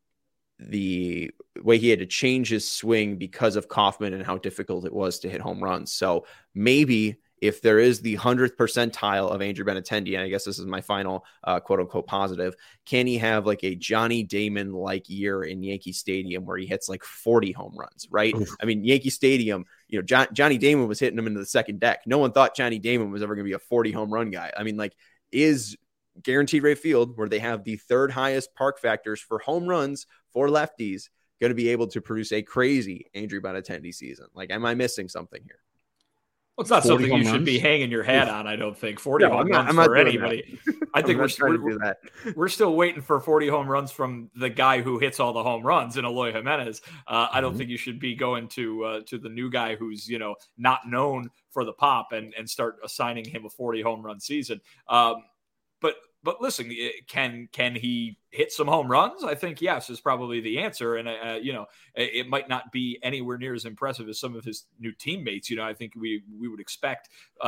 Speaker 1: the way he had to change his swing because of Kauffman and how difficult it was to hit home runs. So maybe if there is the 100th percentile of Andrew Benintendi, and I guess this is my final quote unquote positive, can he have like a Johnny Damon like year in Yankee Stadium where he hits like 40 home runs, right? Oof. I mean, Yankee Stadium, you know, Johnny Damon was hitting him into the second deck. No one thought Johnny Damon was ever going to be a 40 home run guy. I mean, like, is Guaranteed Rate Field, where they have the third highest park factors for home runs for lefties, going to be able to produce a crazy Andrew Benintendi season? Like, am I missing something here?
Speaker 3: Well, it's not something you should be hanging your hat on, I don't think. 40 home runs for anybody. I think we're still waiting for 40 home runs from the guy who hits all the home runs in Eloy Jimenez. I don't think you should be going to the new guy who's, you know, not known for the pop and start assigning him a 40 home run season. But listen, can he hit some home runs? I think yes is probably the answer. And, you know, it might not be anywhere near as impressive as some of his new teammates. You know, I think we would expect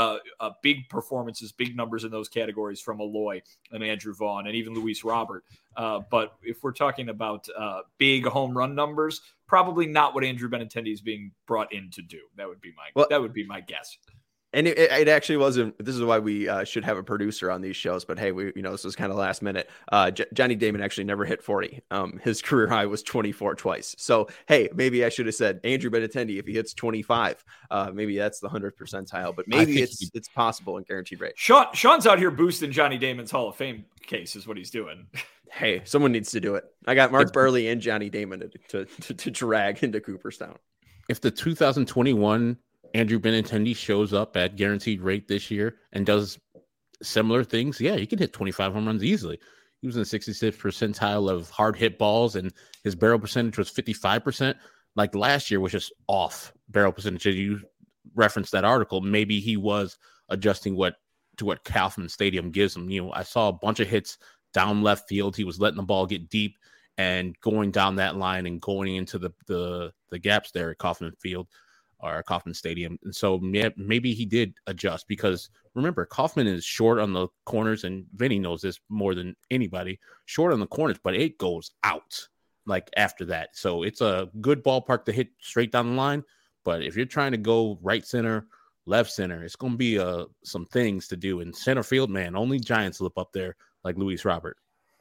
Speaker 3: big performances, big numbers in those categories from Eloy and Andrew Vaughn and even Luis Robert. But if we're talking about big home run numbers, probably not what Andrew Benintendi is being brought in to do. That would be my guess.
Speaker 1: And it actually wasn't. This is why we should have a producer on these shows. But hey, this was kind of last minute. Johnny Damon actually never hit 40. His career high was 24 twice. So hey, maybe I should have said Andrew Benintendi if he hits 25. Maybe that's the 100th percentile. But maybe it's possible in Guaranteed Rate.
Speaker 3: Sean's out here boosting Johnny Damon's Hall of Fame case is what he's doing.
Speaker 1: Hey, someone needs to do it. I got Mark Burley and Johnny Damon to drag into Cooperstown.
Speaker 2: If the 2021 Andrew Benintendi shows up at Guaranteed Rate this year and does similar things, yeah, he can hit 25 home runs easily. He was in the 66th percentile of hard hit balls, and his barrel percentage was 55%. Like last year was just off barrel percentage. You referenced that article. Maybe he was adjusting to what Kauffman Stadium gives him. You know, I saw a bunch of hits down left field. He was letting the ball get deep and going down that line and going into the gaps there at Kauffman Field. Or Kauffman Stadium. And so maybe he did adjust, because remember, Kauffman is short on the corners, and Vinny knows this more than anybody, short on the corners, but it goes out like after that. So it's a good ballpark to hit straight down the line. But if you're trying to go right center, left center, it's going to be some things to do in center field, man. Only giants slip up there like Luis Robert.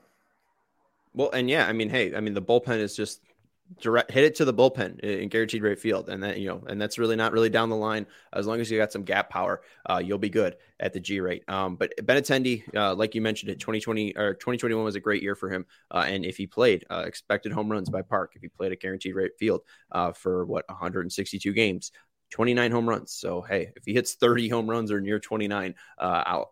Speaker 1: Well, and yeah, I mean, hey, I mean, the bullpen is just direct, hit it to the bullpen in Guaranteed Rate Field, and that, you know, and that's really not really down the line. As long as you got some gap power, you'll be good at the G rate. But Benintendi, like you mentioned, it 2021 was a great year for him. And if he played expected home runs by park, if he played at Guaranteed Rate Field for 162 games, 29 home runs. So hey, if he hits 30 home runs or near 29,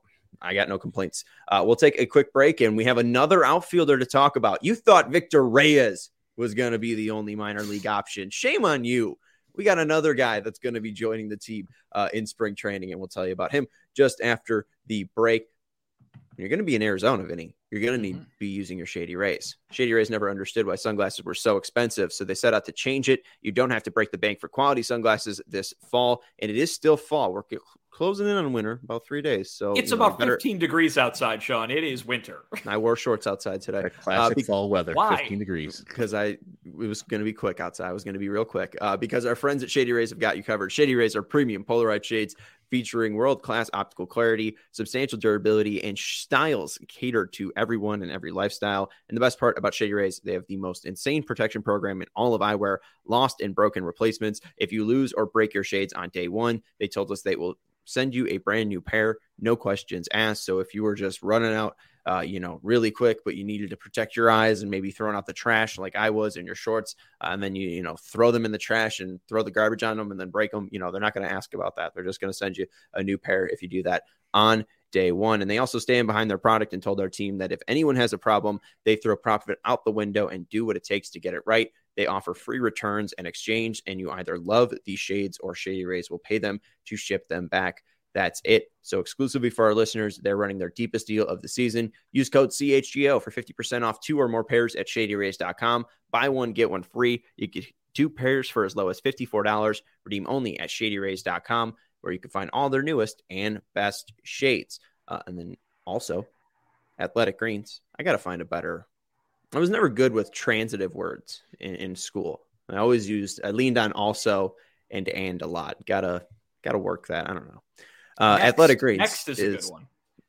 Speaker 1: I got no complaints. We'll take a quick break, and we have another outfielder to talk about. You thought Victor Reyes was going to be the only minor league option. Shame on you. We got another guy that's going to be joining the team in spring training, and we'll tell you about him just after the break. You're going to be in Arizona, Vinny. You're going to need to be using your Shady Rays. Shady Rays never understood why sunglasses were so expensive, so they set out to change it. You don't have to break the bank for quality sunglasses this fall, and it is still fall. We're closing in on winter, about 3 days. So
Speaker 3: it's about 15 degrees outside, Sean. It is winter.
Speaker 1: I wore shorts outside today.
Speaker 2: Classic fall weather.
Speaker 3: Why?
Speaker 2: 15 degrees.
Speaker 1: Because it was going to be quick outside. I was going to be real quick. Because our friends at Shady Rays have got you covered. Shady Rays are premium polarized shades featuring world-class optical clarity, substantial durability, and styles catered to everyone and every lifestyle. And the best part about Shady Rays, they have the most insane protection program in all of eyewear, lost and broken replacements. If you lose or break your shades on day one, they told us they will send you a brand new pair, no questions asked. So if you were just running out, really quick, but you needed to protect your eyes and maybe throwing out the trash like I was in your shorts, and then you throw them in the trash and throw the garbage on them and then break them, they're not going to ask about that. They're just going to send you a new pair if you do that on day one. And they also stand behind their product and told our team that if anyone has a problem, they throw profit out the window and do what it takes to get it right. They offer free returns and exchange, and you either love these shades or Shady Rays will pay them to ship them back. That's it. So exclusively for our listeners, they're running their deepest deal of the season. Use code CHGO for 50% off 2 or more pairs at ShadyRays.com. Buy one, get one free. You get 2 pairs for as low as $54. Redeem only at ShadyRays.com, where you can find all their newest and best shades. And then also, Athletic Greens. I got to find a better. I was never good with transitive words in school. I leaned on also and a lot. Gotta work that. I don't know. Athletic Greens.
Speaker 3: Next is a good one.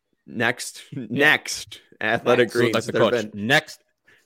Speaker 1: Next. Athletic Greens.
Speaker 2: Like the coach. Next.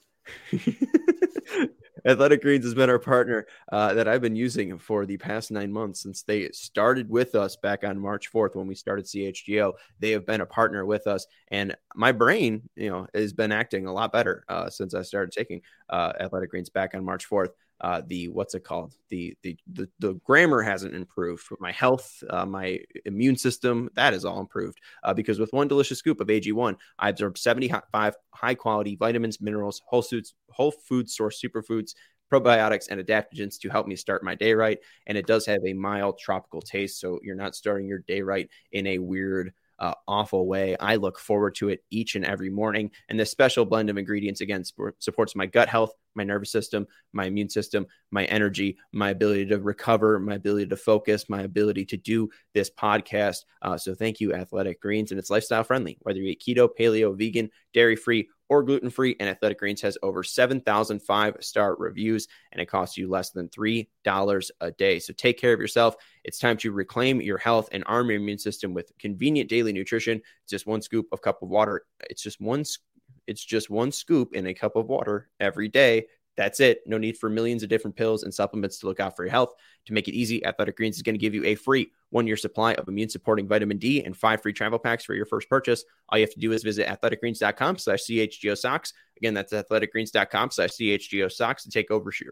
Speaker 1: Athletic Greens has been our partner that I've been using for the past 9 months since they started with us back on March 4th when we started CHGO. They have been a partner with us, and my brain, has been acting a lot better since I started taking Athletic Greens back on March 4th. What's it called? The grammar hasn't improved, but my health, my immune system, that is all improved because with one delicious scoop of AG1, I absorb 75 high quality vitamins, minerals, whole food source superfoods, probiotics, and adaptogens to help me start my day right. And it does have a mild tropical taste, so you're not starting your day right in a weird awful way. I look forward to it each and every morning. And this special blend of ingredients, again, supports my gut health, my nervous system, my immune system, my energy, my ability to recover, my ability to focus, my ability to do this podcast. So thank you, Athletic Greens. And it's lifestyle friendly, whether you eat keto, paleo, vegan, dairy-free, or gluten-free. And Athletic Greens has over 7,000 5-star reviews, and it costs you less than $3 a day. So take care of yourself. It's time to reclaim your health and arm your immune system with convenient daily nutrition. It's just one scoop of cup of water. It's just one scoop in a cup of water every day. That's it. No need for millions of different pills and supplements to look out for your health. To make it easy, Athletic Greens is going to give you a free 1-year supply of immune-supporting vitamin D and 5 free travel packs for your first purchase. All you have to do is visit athleticgreens.com/CHGO-SOCKS. Again, that's athleticgreens.com/CHGO-SOCKS to take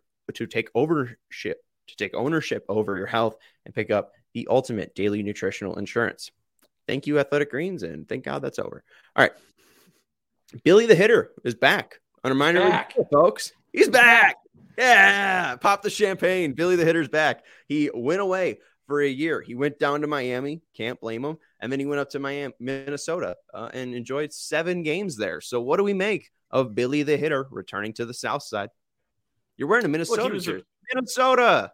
Speaker 1: ownership over your health and pick up the ultimate daily nutritional insurance. Thank you, Athletic Greens, and thank God that's over. All right. Billy the Hitter is back on a minor league, folks. He's back. Yeah. Pop the champagne. Billy the Hitter's back. He went away for a year. He went down to Miami. Can't blame him. And then he went up to Minnesota, and enjoyed 7 games there. So what do we make of Billy the Hitter returning to the South Side? You're wearing a Minnesota jersey. Minnesota.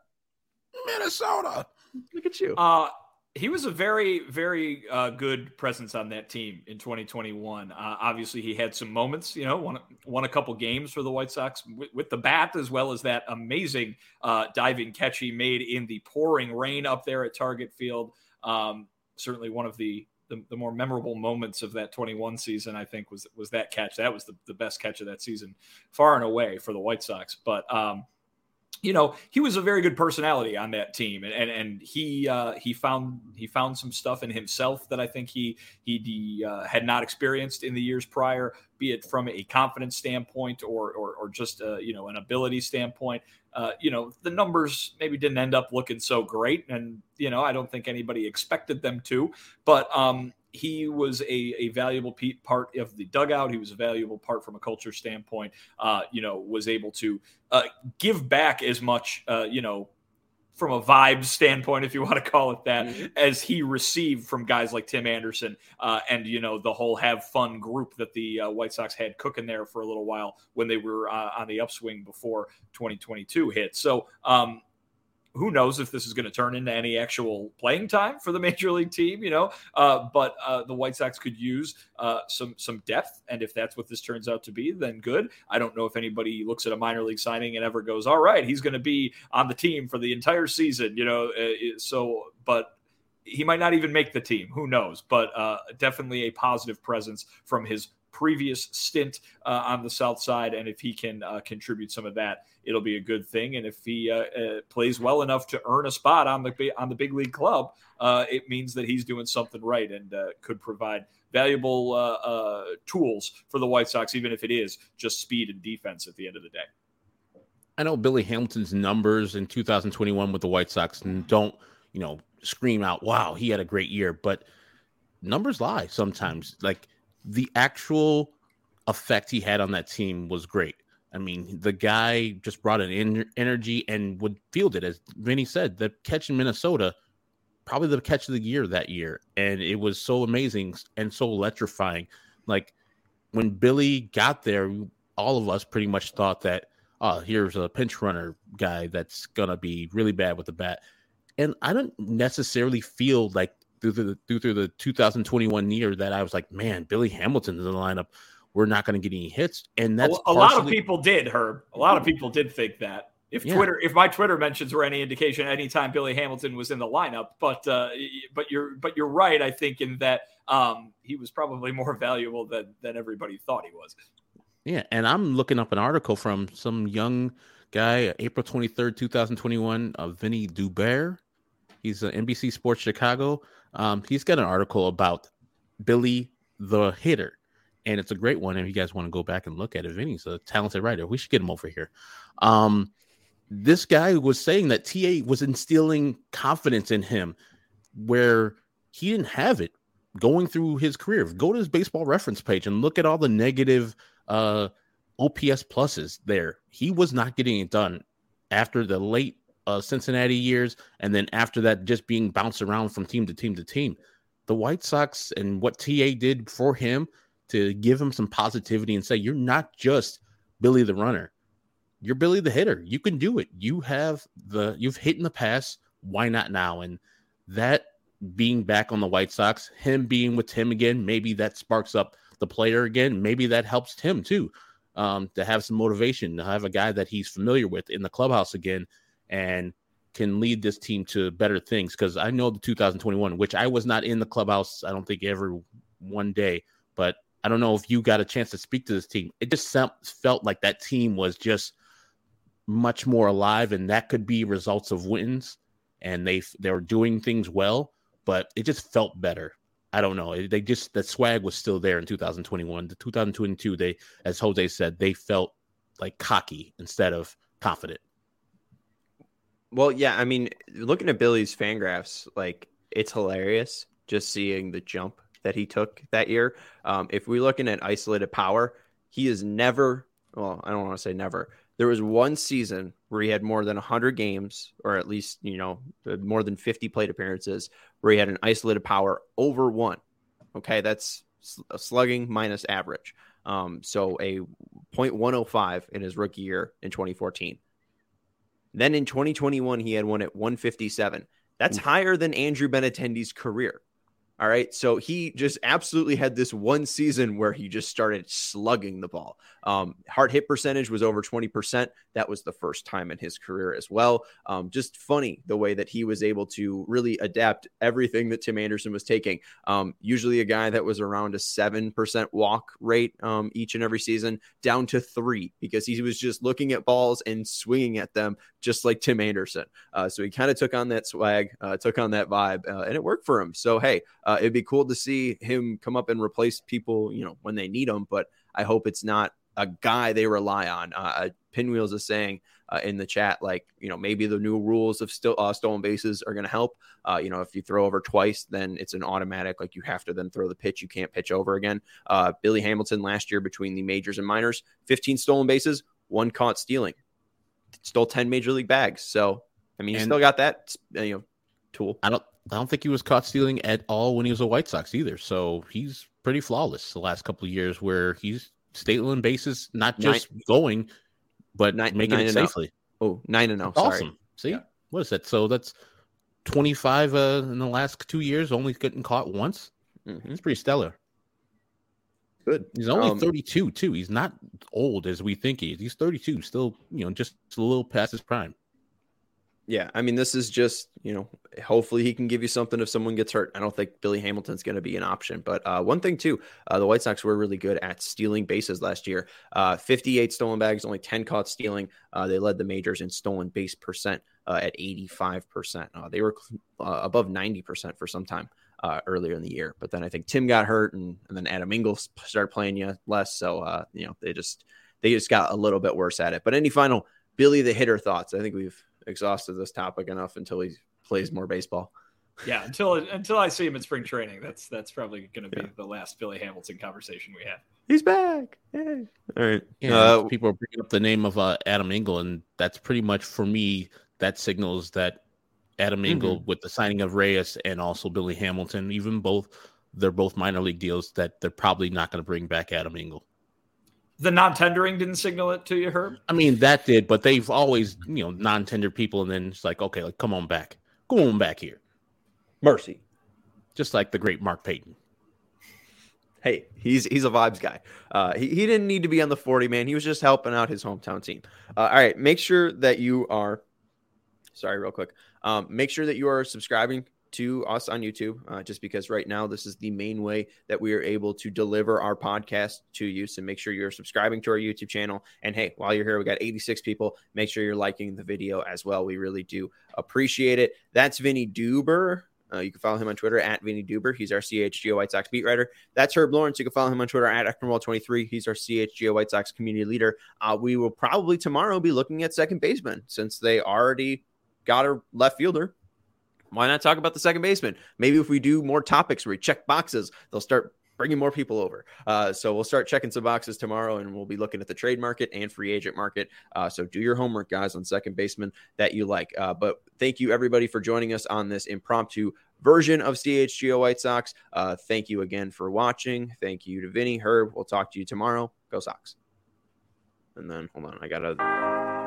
Speaker 1: Look at you.
Speaker 3: He was a very, very good presence on that team in 2021. Obviously, he had some moments, won a couple games for the White Sox with the bat, as well as that amazing diving catch he made in the pouring rain up there at Target Field. Certainly one of the more memorable moments of that 21 season, I think, was that catch. That was the best catch of that season, far and away, for the White Sox. But he was a very good personality on that team, and he found some stuff in himself that I think he had not experienced in the years prior, be it from a confidence standpoint or just an ability standpoint. The numbers maybe didn't end up looking so great, and I don't think anybody expected them to, but he was a valuable part of the dugout. He was a valuable part from a culture standpoint. Was able to give back as much, from a vibe standpoint, if you want to call it that, as he received from guys like Tim Anderson and the whole have fun group that the White Sox had cooking there for a little while when they were on the upswing before 2022 hit. So, who knows if this is going to turn into any actual playing time for the major league team, but the White Sox could use some depth. And if that's what this turns out to be, then good. I don't know if anybody looks at a minor league signing and ever goes, all right, he's going to be on the team for the entire season, but he might not even make the team. Who knows? But definitely a positive presence from his previous stint on the South Side. And if he can contribute some of that, it'll be a good thing. And if he plays well enough to earn a spot on the big league club, it means that he's doing something right and could provide valuable tools for the White Sox, even if it is just speed and defense at the end of the day.
Speaker 2: I know Billy Hamilton's numbers in 2021 with the White Sox don't, scream out, wow, he had a great year, but numbers lie sometimes. Like, the actual effect he had on that team was great. I mean, the guy just brought an energy and would field it. As Vinny said, the catch in Minnesota, probably the catch of the year that year. And it was so amazing and so electrifying. Like, when Billy got there, all of us pretty much thought that, here's a pinch runner guy that's going to be really bad with the bat. And I don't necessarily feel like through the 2021 year that I was like, man, Billy Hamilton's in the lineup, we're not going to get any hits. And that's
Speaker 3: a lot of people did, Herb. A lot of people did think that. If my Twitter mentions were any indication, anytime Billy Hamilton was in the lineup, but you're right. I think in that he was probably more valuable than everybody thought he was.
Speaker 2: Yeah, and I'm looking up an article from some young guy, April 23rd, 2021, Vinny Dubert. He's an NBC Sports Chicago. He's got an article about Billy the hitter, and it's a great one. And if you guys want to go back and look at it, Vinny's a talented writer. We should get him over here. This guy was saying that TA was instilling confidence in him where he didn't have it going through his career. Go to his Baseball Reference page and look at all the negative OPS pluses there. He was not getting it done after the late Cincinnati years, and then after that, just being bounced around from team to team to team. The White Sox and what TA did for him to give him some positivity and say, you're not just Billy the runner, you're Billy the hitter. You can do it. You've hit in the past. Why not now? And that being back on the White Sox, him being with Tim again, maybe that sparks up the player again. Maybe that helps Tim too, to have some motivation, to have a guy that he's familiar with in the clubhouse again and can lead this team to better things. Because I know the 2021, which I was not in the clubhouse, I don't think ever one day, but I don't know if you got a chance to speak to this team. It just felt like that team was just much more alive, and that could be results of wins, and they were doing things well, but it just felt better. I don't know. The swag was still there in 2021. The 2022, they, as Jose said, they felt like cocky instead of confident.
Speaker 1: Well, yeah, I mean, looking at Billy's Fangraphs, like, it's hilarious just seeing the jump that he took that year. If we're looking at isolated power, he is never, well, I don't want to say never. There was one season where he had more than 100 games, or at least, more than 50 plate appearances, where he had an isolated power over 1. Okay, that's a slugging minus average. So a .105 in his rookie year in 2014. Then in 2021, he had one at 157. That's higher than Andrew Benintendi's career. All right. So he just absolutely had this one season where he just started slugging the ball. Hard hit percentage was over 20%. That was the first time in his career as well. Just funny the way that he was able to really adapt everything that Tim Anderson was taking. Usually a guy that was around a 7% walk rate each and every season, down to 3, because he was just looking at balls and swinging at them just like Tim Anderson. So he kind of took on that swag, took on that vibe, and it worked for him. So, hey, it'd be cool to see him come up and replace people, when they need them. But I hope it's not a guy they rely on. Pinwheels is saying in the chat, like, maybe the new rules of stolen bases are going to help. If you throw over twice, then it's an automatic, like you have to then throw the pitch. You can't pitch over again. Billy Hamilton last year between the majors and minors, 15 stolen bases, 1 caught stealing, stole 10 major league bags. So, I mean, he still got that, tool.
Speaker 2: I don't think he was caught stealing at all when he was a White Sox either. So he's pretty flawless the last couple of years where he's stealing bases, not just going, but making it safely.
Speaker 1: 9-0.
Speaker 2: Awesome. See, what is that? So that's 25 in the last 2 years, only getting caught once.
Speaker 1: Mm-hmm.
Speaker 2: It's pretty stellar.
Speaker 1: Good.
Speaker 2: He's only 32 too. He's not old as we think he is. He's 32, still, just a little past his prime.
Speaker 1: Yeah, I mean, this is just, hopefully he can give you something if someone gets hurt. I don't think Billy Hamilton's going to be an option. But one thing, too, the White Sox were really good at stealing bases last year. 58 stolen bags, only 10 caught stealing. They led the majors in stolen base percent at 85%. They were above 90% for some time earlier in the year. But then I think Tim got hurt, and then Adam Engel started playing less. So, they just got a little bit worse at it. But any final Billy the Hitter thoughts? I think we've exhausted this topic enough until he plays more baseball.
Speaker 3: Yeah, until I see him in spring training, that's probably going to be the last Billy Hamilton conversation we have.
Speaker 1: He's back. Yay. All right.
Speaker 2: Yeah, people are bringing up the name of Adam Engel, and that's pretty much for me. That signals that Adam Engel, with the signing of Reyes and also Billy Hamilton, they're both minor league deals, that they're probably not going to bring back Adam Engel.
Speaker 3: The non-tendering didn't signal it to you, Herb?
Speaker 2: I mean, that did, but they've always, non-tender people, and then it's like, okay, like, come on back. Go on back here.
Speaker 1: Mercy.
Speaker 2: Just like the great Mark Payton.
Speaker 1: Hey, he's a vibes guy. He didn't need to be on the 40, man. He was just helping out his hometown team. All right, make sure that you are make sure that you are subscribing to us on YouTube, just because right now this is the main way that we are able to deliver our podcast to you. So make sure you're subscribing to our YouTube channel. And hey, while you're here, we got 86 people. Make sure you're liking the video as well. We really do appreciate it. That's Vinny Duber. You can follow him on Twitter at Vinny Duber. He's our CHGO White Sox beat writer. That's Herb Lawrence. You can follow him on Twitter at Ekmanwall23. He's our CHGO White Sox community leader. We will probably tomorrow be looking at second baseman since they already got a left fielder. Why not talk about the second baseman? Maybe if we do more topics where we check boxes, they'll start bringing more people over. So we'll start checking some boxes tomorrow, and we'll be looking at the trade market and free agent market. So do your homework, guys, on second baseman that you like. But thank you, everybody, for joining us on this impromptu version of CHGO White Sox. Thank you again for watching. Thank you to Vinny, Herb. We'll talk to you tomorrow. Go Sox. And then, hold on, I got to...